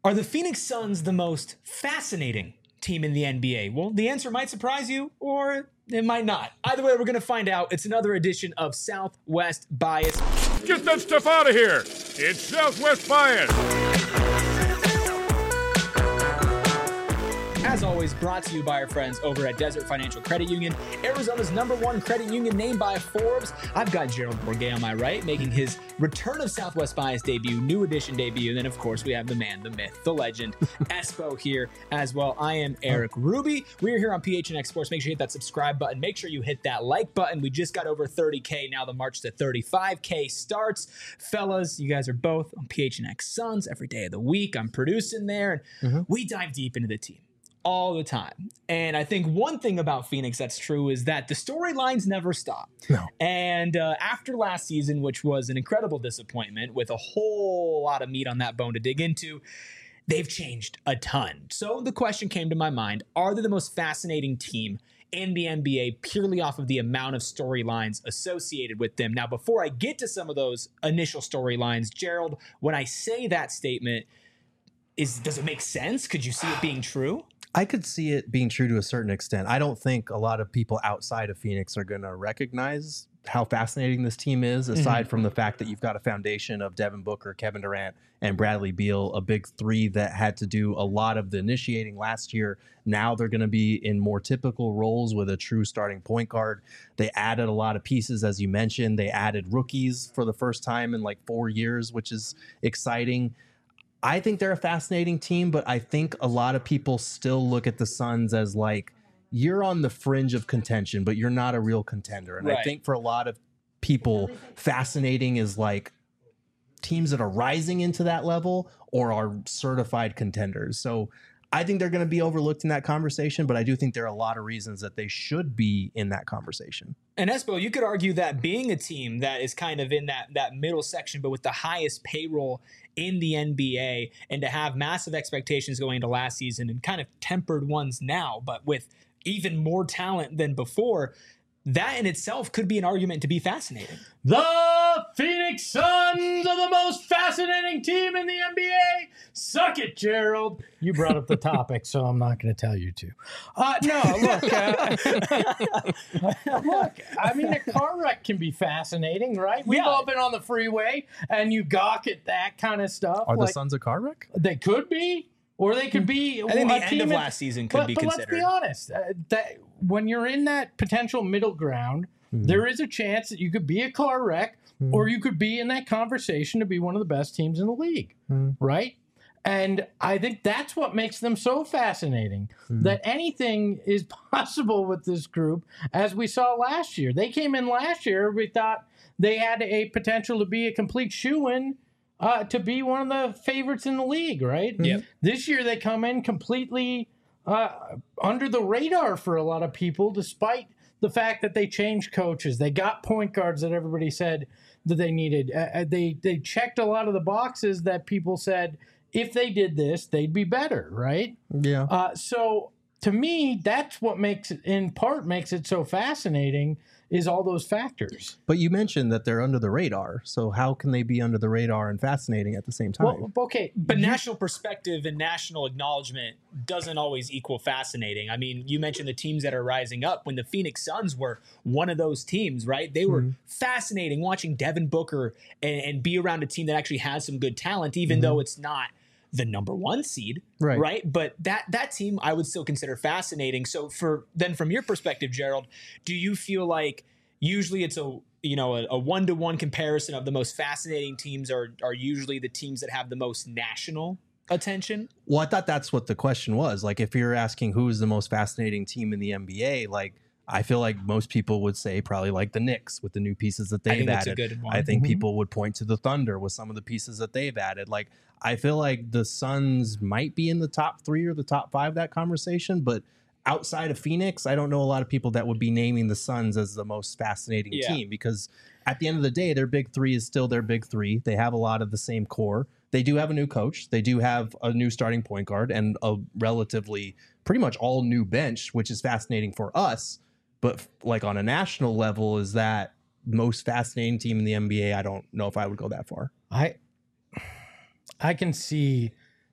Are the Phoenix Suns the most fascinating team in the NBA? Well, the answer might surprise you, or it might not. Either way, we're going to find out. It's another edition of Southwest Bias. Get that stuff out of here. It's Southwest Bias. As always, brought to you by our friends over at Desert Financial Credit Union, Arizona's #1 credit union named by Forbes. I've got Gerald Bourguet on my right, making his return of Southwest Bias debut, new edition debut. And then, of course, we have the man, the myth, the legend, Espo here as well. I am Eric Ruby. We're here on PHNX Sports. Make sure you hit that subscribe button. Make sure you hit that like button. We just got over 30K. Now the march to 35K starts. Fellas, you guys are both on PHNX Suns every day of the week. I'm producing there, and we dive deep into the team all the time. And I think one thing about Phoenix that's true is that the storylines never stop. No. And after last season, which was an incredible disappointment with a whole lot of meat on that bone to dig into, they've changed a ton. So the question came to my mind, are they the most fascinating team in the NBA purely off of the amount of storylines associated with them? Now, before I get to some of those initial storylines, Gerald, when I say that statement, does it make sense? Could you see it being true? I could see it being true to a certain extent. I don't think a lot of people outside of Phoenix are going to recognize how fascinating this team is, aside from the fact that you've got a foundation of Devin Booker, Kevin Durant, and Bradley Beal, a big three that had to do a lot of the initiating last year. Now they're going to be in more typical roles with a true starting point guard. They added a lot of pieces, as you mentioned. They added rookies for the first time in like 4 years, which is exciting. I think they're a fascinating team, but I think a lot of people still look at the Suns as like, you're on the fringe of contention, but you're not a real contender. And Right. I think for a lot of people, fascinating is like teams that are rising into that level or are certified contenders. So I think they're going to be overlooked in that conversation, but I do think there are a lot of reasons that they should be in that conversation. And Espo, you could argue that being a team that is kind of in that middle section, but with the highest payroll in the NBA, and to have massive expectations going into last season and kind of tempered ones now, but with even more talent than before, that in itself could be an argument to be fascinating. The Phoenix Suns are the most fascinating team in the NBA. Suck it, Gerald. You brought up the topic, so I'm not going to tell you to. Look, I mean, a car wreck can be fascinating, right? We've all been on the freeway, and you gawk at that kind of stuff. Are the Suns a car wreck? They could be, or they could be. I think the a end team of last season could be but considered. let's be honest. That when you're in that potential middle ground, there is a chance that you could be a car wreck, or you could be in that conversation to be one of the best teams in the league, right? And I think that's what makes them so fascinating, that anything is possible with this group, as we saw last year. They came in last year, we thought they had a potential to be a complete shoo-in to be one of the favorites in the league, right? Yep. This year they come in completely under the radar for a lot of people, despite the fact that they changed coaches. They got point guards that everybody said that they needed. They checked a lot of the boxes that people said if they did this, they'd be better, right? Yeah. So to me, that's what makes it so fascinating, is all those factors. But you mentioned that they're under the radar. So how can they be under the radar and fascinating at the same time? Well, okay, But national perspective and national acknowledgement doesn't always equal fascinating. I mean, you mentioned the teams that are rising up. When the Phoenix Suns were one of those teams, right? They were fascinating watching Devin Booker and be around a team that actually has some good talent, even though it's not the #1 seed, right? But that team I would still consider fascinating. So from your perspective, Gerald, do you feel like usually it's a 1-to-1 comparison of the most fascinating teams are usually the teams that have the most national attention? Well, I thought that's what the question was. Like, if you're asking who is the most fascinating team in the NBA, like, I feel like most people would say probably like the Knicks with the new pieces that they've that's added. a good one. I think people would point to the Thunder with some of the pieces that they've added. Like, I feel like the Suns might be in the top 3 or the top 5 that conversation, but outside of Phoenix, I don't know a lot of people that would be naming the Suns as the most fascinating team, because at the end of the day, their big 3 is still their big 3. They have a lot of the same core. They do have a new coach. They do have a new starting point guard and a relatively pretty much all new bench, which is fascinating for us. But like on a national level, is that most fascinating team in the NBA? I don't know if I would go that far. I can see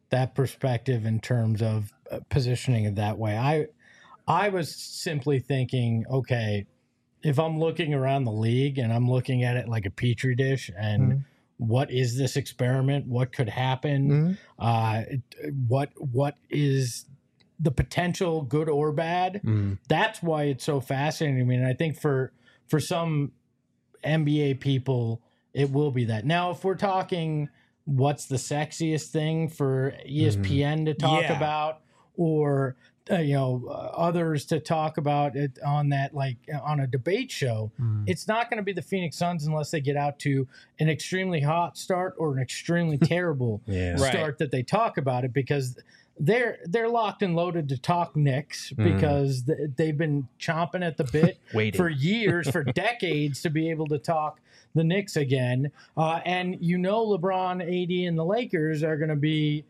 that perspective in terms of positioning it that way. I was simply thinking, okay, if I'm looking around the league and I'm looking at it like a petri dish and what is this experiment? What could happen? What is the potential, good or bad? That's why it's so fascinating. I mean, I think for some NBA people, it will be that. Now, if we're talking what's the sexiest thing for ESPN to talk about, or others to talk about it on that, like on a debate show, it's not going to be the Phoenix Suns unless they get out to an extremely hot start or an extremely terrible start that they talk about it, because they're locked and loaded to talk Knicks because they've been chomping at the bit for years, for decades, to be able to talk the Knicks again. And LeBron, AD, and the Lakers are going to be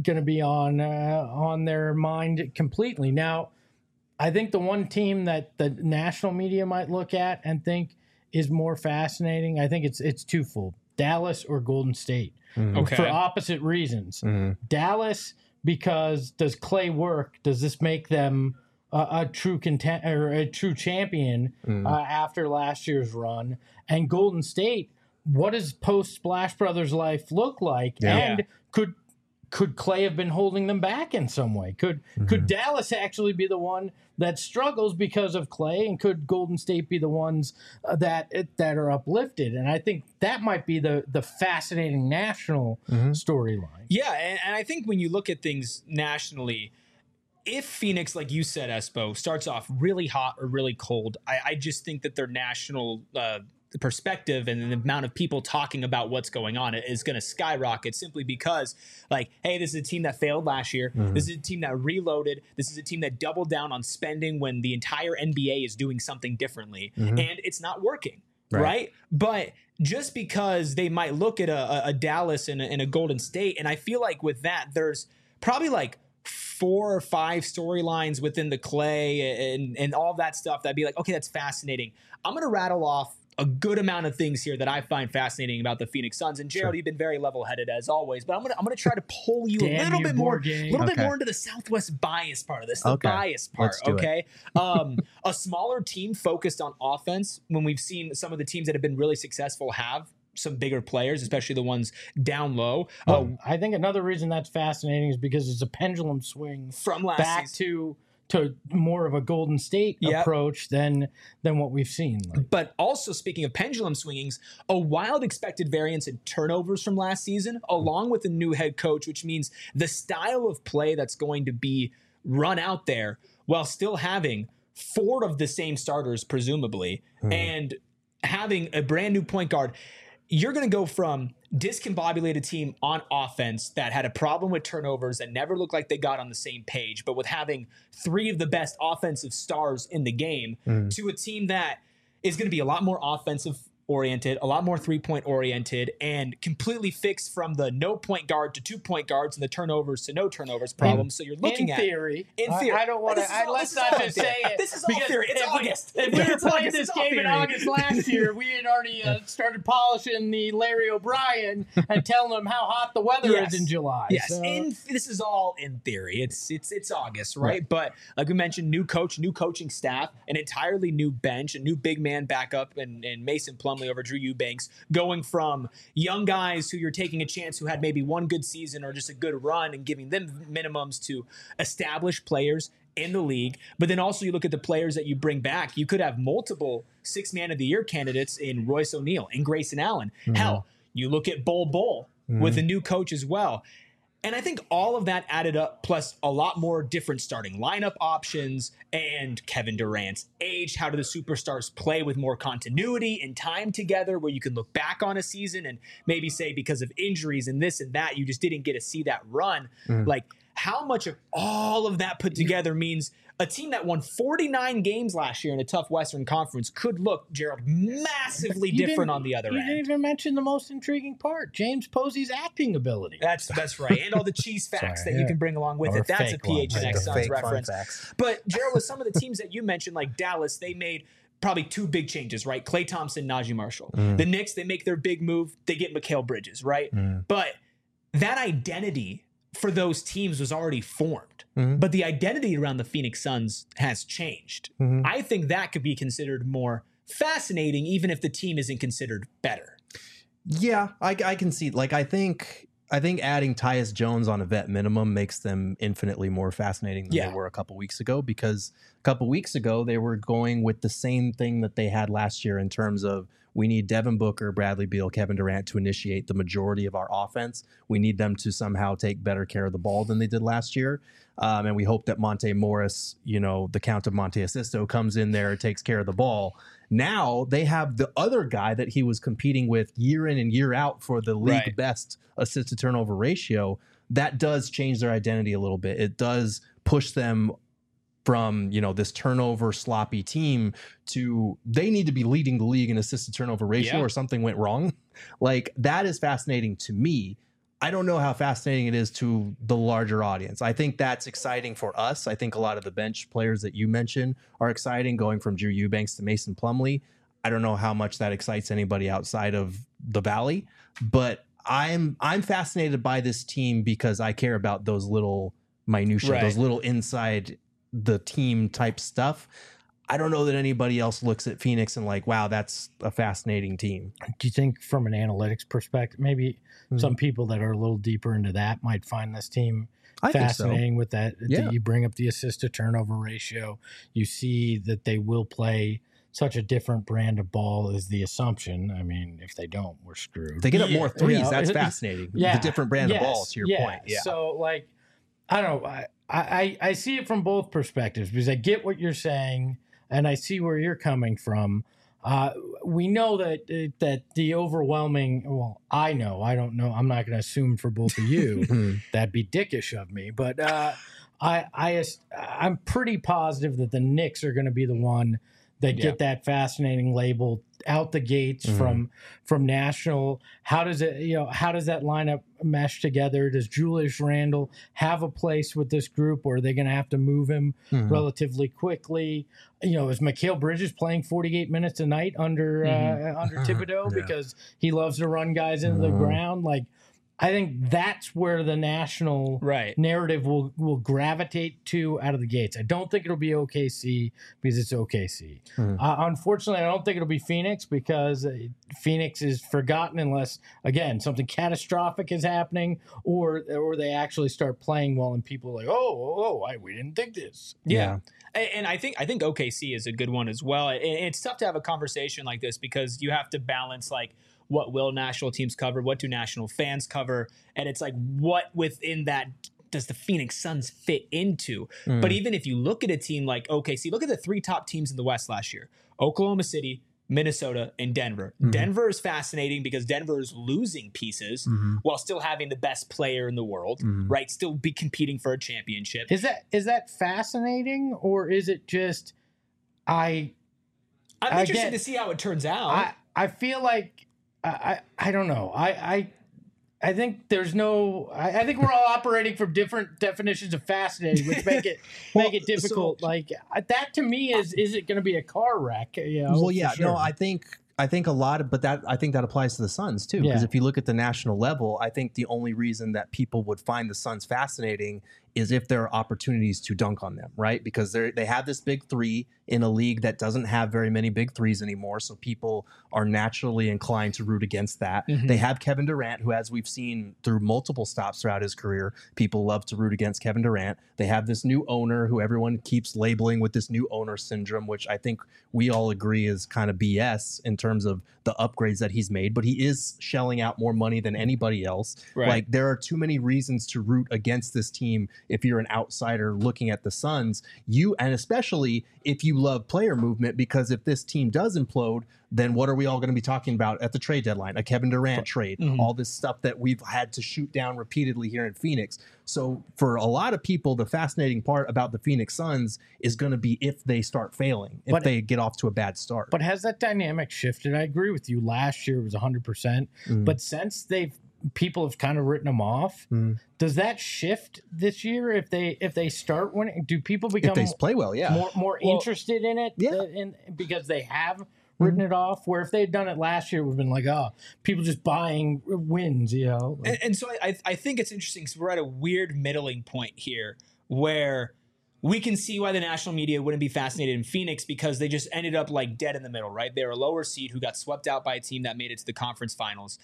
on their mind completely. Now, I think the one team that the national media might look at and think is more fascinating, I think it's twofold: Dallas or Golden State, for opposite reasons. Dallas, because does Clay work? Does this make them a true a true champion after last year's run? And Golden State, what does post Splash Brothers life look like? And could Clay have been holding them back in some way? Could Dallas actually be the one that struggles because of Clay, and could Golden State be the ones that are uplifted? And I think that might be the fascinating national storyline. Yeah, and I think when you look at things nationally, if Phoenix, like you said, Espo, starts off really hot or really cold, I just think that their national perspective and the amount of people talking about what's going on is going to skyrocket, simply because, like, hey, this is a team that failed last year. This is a team that reloaded. This is a team that doubled down on spending when the entire NBA is doing something differently, and it's not working, right? But just because they might look at a Dallas and a Golden State, and I feel like with that, there's probably like 4 or 5 storylines within the Clay and all that stuff that'd be like, okay, that's fascinating. I'm going to rattle off a good amount of things here that I find fascinating about the Phoenix Suns. And Gerald, you've been very level-headed as always, but I'm gonna try to pull you a little bit more into the Southwest bias part of this. The bias part, okay? A smaller team focused on offense, when we've seen some of the teams that have been really successful have some bigger players, especially the ones down low. I think another reason that's fascinating is because it's a pendulum swing from last back season to more of a Golden State approach than what we've seen. But also, speaking of pendulum swingings, a wild expected variance in turnovers from last season, along with a new head coach, which means the style of play that's going to be run out there while still having 4 of the same starters, presumably, and having a brand new point guard. You're going to go from discombobulated team on offense that had a problem with turnovers that never looked like they got on the same page, but with having 3 of the best offensive stars in the game, to a team that is going to be a lot more offensive oriented, a lot more 3-point oriented, and completely fixed from the no point guard to 2-point guards and the turnovers to no turnovers problem. So you're looking in at theory. I don't want to. Let's not just say it. This is all theory. It's August. If we were playing this game in August last year, we had already started polishing the Larry O'Brien and telling them how hot the weather is in July. Yes, so. This is all in theory. It's August, right? But like we mentioned, new coach, new coaching staff, an entirely new bench, a new big man backup, and Mason Plumlee over Drew Eubanks, going from young guys who you're taking a chance who had maybe one good season or just a good run and giving them minimums to established players in the league. But then also you look at the players that you bring back. You could have multiple 6-man of the year candidates in Royce O'Neal and Grayson Allen. Hell, you look at Bol with a new coach as well. And I think all of that added up, plus a lot more different starting lineup options and Kevin Durant's age. How do the superstars play with more continuity and time together, where you can look back on a season and maybe say, because of injuries and this and that, you just didn't get to see that run. Like, how much of all of that put together means a team that won 49 games last year in a tough Western Conference could look, Gerald, massively different on the other end. You didn't even mention the most intriguing part, James Posey's acting ability. That's right. And all the cheese facts that you can bring along with it. That's a PHNX Suns reference. But, Gerald, with some of the teams that you mentioned, like Dallas, they made probably 2 big changes, right? Klay Thompson, Najee Marshall. The Knicks, they make their big move. They get Mikal Bridges, right? But that identity for those teams was already formed, but the identity around the Phoenix Suns has changed. I think that could be considered more fascinating, even if the team isn't considered better. Yeah, I can see. Like, I think adding Tyus Jones on a vet minimum makes them infinitely more fascinating than they were a couple weeks ago, because a couple weeks ago they were going with the same thing that they had last year in terms of, we need Devin Booker, Bradley Beal, Kevin Durant to initiate the majority of our offense. We need them to somehow take better care of the ball than they did last year. And we hope that Monte Morris, the Count of Monte Asisto, comes in there and takes care of the ball. Now they have the other guy that he was competing with year in and year out for the league best assist to turnover ratio. That does change their identity a little bit. It does push them from, this turnover sloppy team to, they need to be leading the league in assist to turnover ratio or something went wrong. Like, that is fascinating to me. I don't know how fascinating it is to the larger audience. I think that's exciting for us. I think a lot of the bench players that you mentioned are exciting, going from Drew Eubanks to Mason Plumlee. I don't know how much that excites anybody outside of the Valley, but I'm fascinated by this team because I care about those little minutia, those little inside the team type stuff. I don't know that anybody else looks at Phoenix and like, wow, that's a fascinating team. Do you think from an analytics perspective, maybe some people that are a little deeper into that might find this team fascinating with that? Yeah. You bring up the assist to turnover ratio. You see that they will play such a different brand of ball is the assumption. I mean, if they don't, we're screwed. If they get up more threes, that's fascinating. The different brand of ball, to your point. Yeah. So, like, I don't know. I see it from both perspectives, because I get what you're saying and I see where you're coming from. We know that the overwhelming, well, I don't know. I'm not going to assume for both of you. That'd be dickish of me. But I'm pretty positive that the Knicks are going to be the one that get that fascinating label out the gates from national. How does that lineup mesh together? Does Julius Randle have a place with this group, or are they going to have to move him relatively quickly? Is Mikal Bridges playing 48 minutes a night under Thibodeau because he loves to run guys into the ground? Like, I think that's where the national narrative will gravitate to out of the gates. I don't think it'll be OKC because it's OKC. Unfortunately, I don't think it'll be Phoenix because Phoenix is forgotten unless, again, something catastrophic is happening or they actually start playing well and people are like, we didn't think this. Yeah. And I think OKC is a good one as well. And it's tough to have a conversation like this because you have to balance, like, what will national teams cover? What do national fans cover? And it's like, what within that does the Phoenix Suns fit into? But even if you look at a team like OKC, look at the three top teams in the West last year: Oklahoma City, Minnesota, and Denver. Denver is fascinating because Denver is losing pieces while still having the best player in the world, right? Still be competing for a championship. Is that fascinating, or is it just I'm interested to see how it turns out. I feel like I don't know. I think there's no. I think we're all operating from different definitions of fascinating, which make it difficult. So, like, that to me is it going to be a car wreck? Well, yeah, sure. no, I think a lot of, but I think that applies to the Suns too. Because if you look at the national level, I think the only reason that people would find the Suns fascinating is if there are opportunities to dunk on them, right? Because they have this big three in a league that doesn't have very many big threes anymore. So people are naturally inclined to root against that. They have Kevin Durant, who, as we've seen through multiple stops throughout his career, people love to root against Kevin Durant. They have this new owner who everyone keeps labeling with this new owner syndrome, which I think we all agree is kind of BS in terms of the upgrades that he's made, but he is shelling out more money than anybody else. Right. Like, there are too many reasons to root against this team if you're an outsider looking at the Suns, and especially if you love player movement, because if this team does implode, then what are we all going to be talking about at the trade deadline? A Kevin Durant trade, all this stuff that we've had to shoot down repeatedly here in Phoenix. So for a lot of people, the fascinating part about the Phoenix Suns is going to be if they start failing, if they get off to a bad start. But has that dynamic shifted? I agree with you. Last year it was 100%, but since people have kind of written them off. Does that shift this year if they start winning? Do people become if they play well, more interested in it? Yeah, because they have written it off. Where if they had done it last year, it would have been like, oh, people just buying wins, you know. And so I think it's interesting because we're at a weird middling point here where we can see why the national media wouldn't be fascinated in Phoenix because they just ended up like dead in the middle, right? They're a lower seed who got swept out by a team that made it to the conference finals.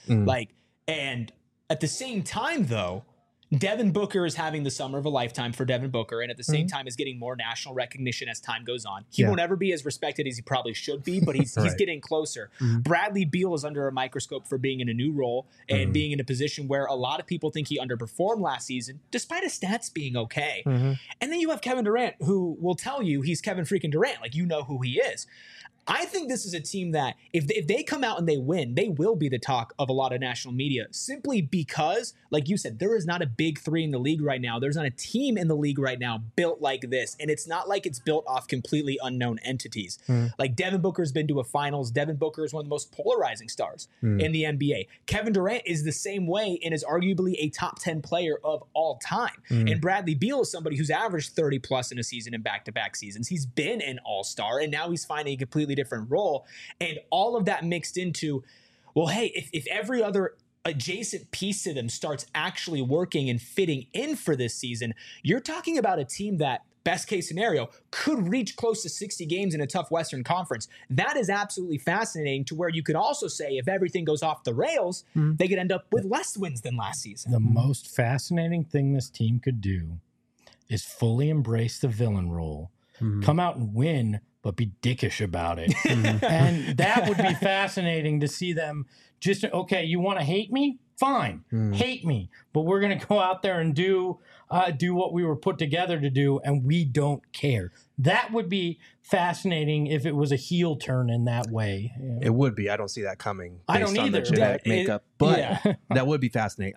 And at the same time, though, Devin Booker is having the summer of a lifetime for Devin Booker, and at the same time is getting more national recognition as time goes on. He won't ever be as respected as he probably should be, but he's getting closer. Bradley Beal is under a microscope for being in a new role and being in a position where a lot of people think he underperformed last season, despite his stats being okay. And then you have Kevin Durant, who will tell you he's Kevin freaking Durant, like you know who he is. I think this is a team that if they come out and they win, they will be the talk of a lot of national media simply because, like you said, there is not a big three in the league right now. There's not a team in the league right now built like this. And it's not like it's built off completely unknown entities. Like Devin Booker's been to a finals. Devin Booker is one of the most polarizing stars in the NBA. Kevin Durant is the same way and is arguably a top 10 player of all time. And Bradley Beal is somebody who's averaged 30 plus in a season in back-to-back seasons. He's been an all-star and now he's finding a completely different role, and all of that mixed into, well, hey, if every other adjacent piece to them starts actually working and fitting in for this season, you're talking about a team that, best case scenario, could reach close to 60 games in a tough Western Conference. That is absolutely fascinating, to where you could also say if everything goes off the rails, they could end up with less wins than last season. The most fascinating thing this team could do is fully embrace the villain role, come out and win, but be dickish about it. And that would be fascinating to see them just, okay, you want to hate me? Fine, hate me. But we're going to go out there and do what we were put together to do, and we don't care. That would be fascinating if it was a heel turn in that way. You know? It would be. I don't see that coming. I don't based on either. the genetic makeup, but that would be fascinating.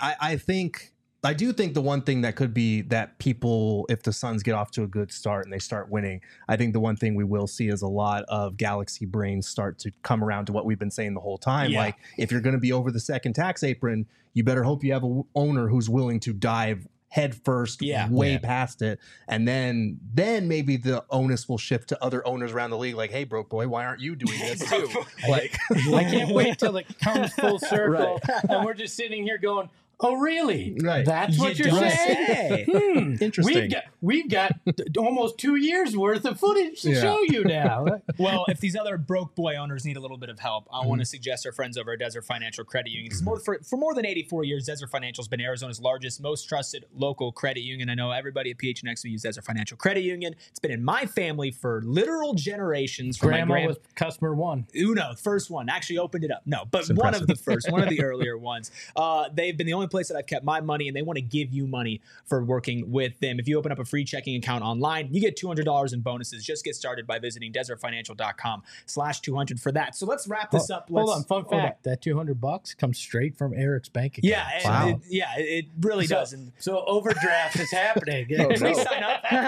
I do think the one thing that could be that people, if the Suns get off to a good start and they start winning, I think the one thing we will see is a lot of Galaxy brains start to come around to what we've been saying the whole time. Yeah. Like, if you're going to be over the second tax apron, you better hope you have an owner who's willing to dive head first, way past it. And then maybe the onus will shift to other owners around the league. Like, hey, broke boy, why aren't you doing this too? Like, I can't wait till it comes full circle. And we're just sitting here going, oh, really? Right. That's what you're saying? Interesting. We've got almost 2 years worth of footage to show you now. Well, if these other broke boy owners need a little bit of help, I want to suggest our friends over at Desert Financial Credit Union. For more than 84 years, Desert Financial has been Arizona's largest, most trusted local credit union. I know everybody at PHNX will use Desert Financial Credit Union. It's been in my family for literal generations. Grandma was customer one. Uno, first one. Actually opened it up. No, but one of the first, one of the earlier ones. They've been the only place that I've kept my money, and they want to give you money for working with them. If you open up a free checking account online, you get $200 in bonuses. Just get started by visiting desertfinancial.com/200 for that. So let's wrap this up. Hold on. Fun fact. That $200 comes straight from Eric's bank account. Yeah. It really does. And so overdraft is happening. Please sign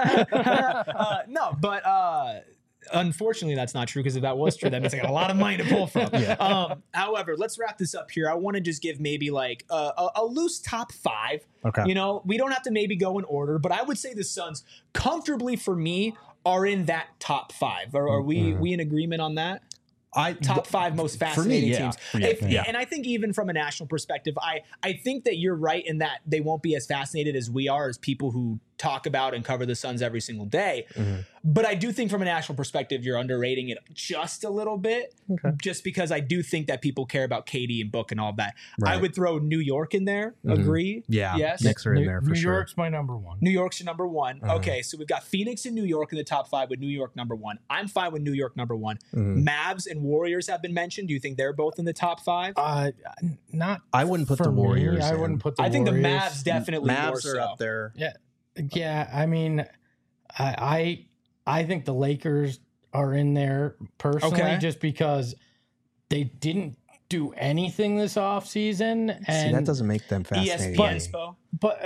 up. No, but unfortunately, that's not true, because if that was true, that means I got a lot of money to pull from. However, let's wrap this up here. I want to just give maybe like a loose top 5. Okay. You know, we don't have to maybe go in order, but I would say the Suns comfortably for me are in that top 5. Are we in agreement on that? Top 5 most fascinating teams. And I think even from a national perspective, I think that you're right in that they won't be as fascinated as we are, as people who talk about and cover the Suns every single day. But I do think from a national perspective, you're underrating it just a little bit, just because I do think that people care about KD and Book and all that. I would throw New York in there. Agree? Yeah. Yes. Knicks are in there for New sure. New York's my number 1. New York's your number 1. Okay, so we've got Phoenix and New York in the top 5 with New York number 1. I'm fine with New York number 1. Mavs and Warriors have been mentioned. Do you think they're both in the top 5? Not. I wouldn't put for the Warriors. I wouldn't put the I think Warriors. the Mavs definitely more Mavs so. are up there. Yeah. I mean, I think the Lakers are in there personally, just because they didn't do anything this offseason. And See, that doesn't make them fascinating. But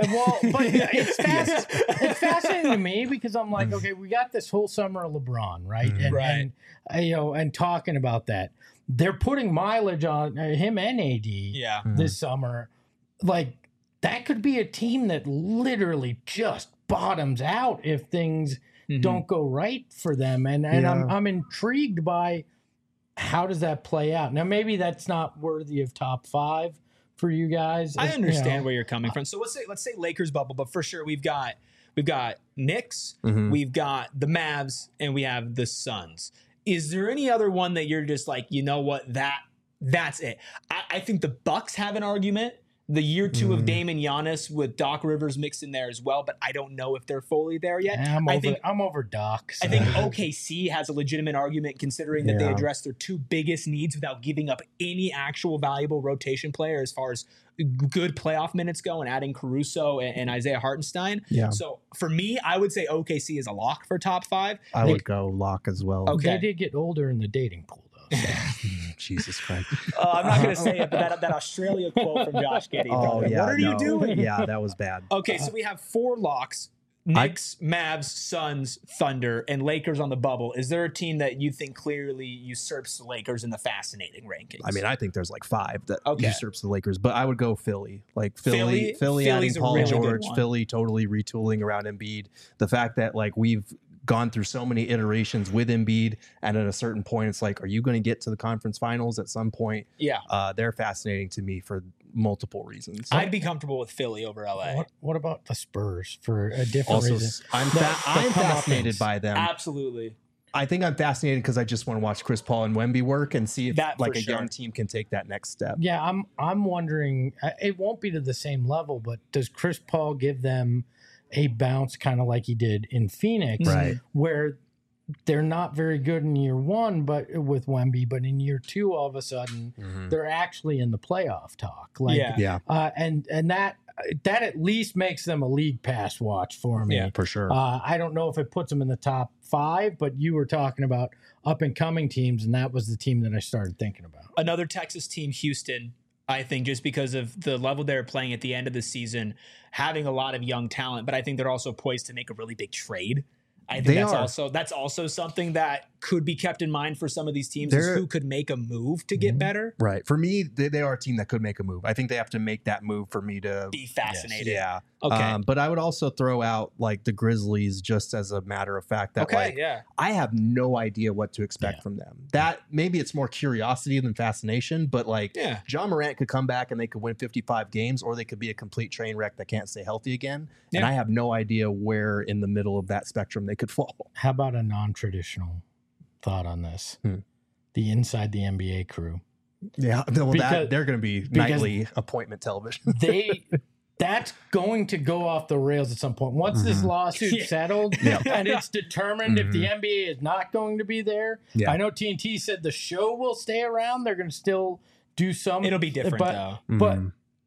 it's fascinating to me, because I'm like, okay, we got this whole summer of LeBron, right? And and talking about that, they're putting mileage on him and AD this summer. Like, that could be a team that literally just bottoms out if things don't go right for them. And I'm intrigued by how does that play out? Now, maybe that's not worthy of top 5 for you guys. I understand where you're coming from. So let's say Lakers bubble, but for sure we've got Knicks, we've got the Mavs, and we have the Suns. Is there any other one that you're just like, you know what, that's it? I think the Bucks have an argument. The year 2 of Dame and Giannis with Doc Rivers mixed in there as well, but I don't know if they're fully there yet. I'm over Doc. So. I think OKC has a legitimate argument considering that they addressed their 2 biggest needs without giving up any actual valuable rotation player as far as good playoff minutes go, and adding Caruso and Isaiah Hartenstein. Yeah. So for me, I would say OKC is a lock for top 5. I would go lock as well. Okay. They did get older in the dating pool, though. So. Jesus Christ. I'm not going to say it, but that Australia quote from Josh Giddey. Oh, yeah. What are you doing? Yeah, that was bad. Okay, so we have 4 locks. Knicks, Mavs, Suns, Thunder, and Lakers on the bubble. Is there a team that you think clearly usurps the Lakers in the fascinating rankings? I mean, I think there's like 5 that usurps the Lakers, but I would go Philly. Like Philly Philly's adding Paul really George, Philly totally retooling around Embiid. The fact that like we've gone through so many iterations with Embiid, and at a certain point, it's like, are you going to get to the conference finals at some point? Yeah. They're fascinating to me for multiple reasons. I'd be comfortable with Philly over LA. What about the Spurs for a different reason? I'm fascinated by them. Absolutely. I think I'm fascinated because I just want to watch Chris Paul and Wemby work and see if That like a sure. young team can take that next step. Yeah, I'm wondering. It won't be to the same level, but does Chris Paul give them a bounce, kind of like he did in Phoenix, Right. where they're not very good in year 1, but with Wemby, but in year 2, all of a sudden they're actually in the playoff talk. Like, Yeah. And that at least makes them a league pass watch for me. Yeah, for sure. I don't know if it puts them in the top 5, but you were talking about up and coming teams, and that was the team that I started thinking about. Another Texas team, Houston, I think, just because of the level they're playing at the end of the season, having a lot of young talent, but I think they're also poised to make a really big trade. I think that's also something that could be kept in mind for some of these teams, is who could make a move to get better. Right. For me, they are a team that could make a move. I think they have to make that move for me to Be fascinated. Yeah. Okay. But I would also throw out like the Grizzlies, just as a matter of fact that I have no idea what to expect from them. That maybe it's more curiosity than fascination, but like John Morant could come back and they could win 55 games, or they could be a complete train wreck that can't stay healthy again. And I have no idea where in the middle of that spectrum they could fall. How about a non-traditional thought on this? The Inside the NBA crew. Yeah, well, they're going to be nightly appointment television. That's going to go off the rails at some point. Once this lawsuit settled and it's determined if the NBA is not going to be there. I know TNT said the show will stay around. They're going to still do some. It'll be different, though. But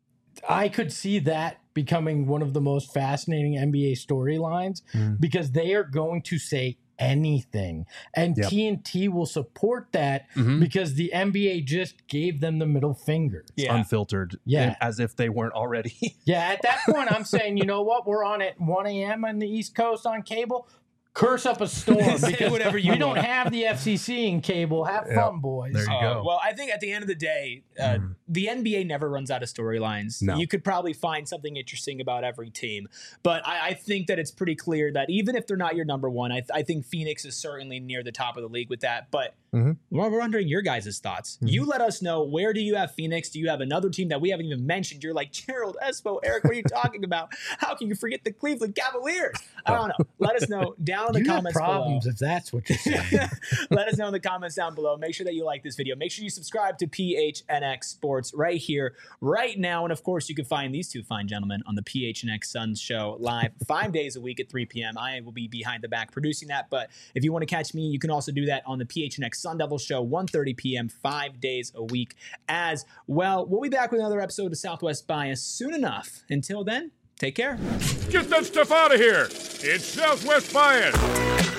I could see that becoming one of the most fascinating NBA storylines because they are going to say anything. And TNT will support that because the NBA just gave them the middle finger. Unfiltered. As if they weren't already. At that point, I'm saying, you know what? We're on at 1 a.m. on the East Coast on cable. Curse up a storm because whatever you don't have the FCC in cable. Have fun, boys. There you go. Well, I think at the end of the day, the NBA never runs out of storylines. No. You could probably find something interesting about every team. But I think that it's pretty clear that even if they're not your number one, I think Phoenix is certainly near the top of the league with that. But we're wondering your guys' thoughts. You let us know, where do you have Phoenix? Do you have another team that we haven't even mentioned? You're like, Gerald, Espo, Eric, what are you talking about? How can you forget the Cleveland Cavaliers? I don't know. Let us know down in the comments problems below. if that's what you're saying. Let us know in the comments down below. Make sure that you like this video. Make sure you subscribe to PHNX Sports right here, right now. And of course, you can find these two fine gentlemen on the PHNX Suns show live 5 days a week at 3 p.m. I will be behind the back producing that. But if you want to catch me, you can also do that on the PHNX Sun Devil show, 1:30 p.m., 5 days a week as well. We'll be back with another episode of Southwest Bias soon enough. Until then, take care. Get that stuff out of here. It's Southwest Bias.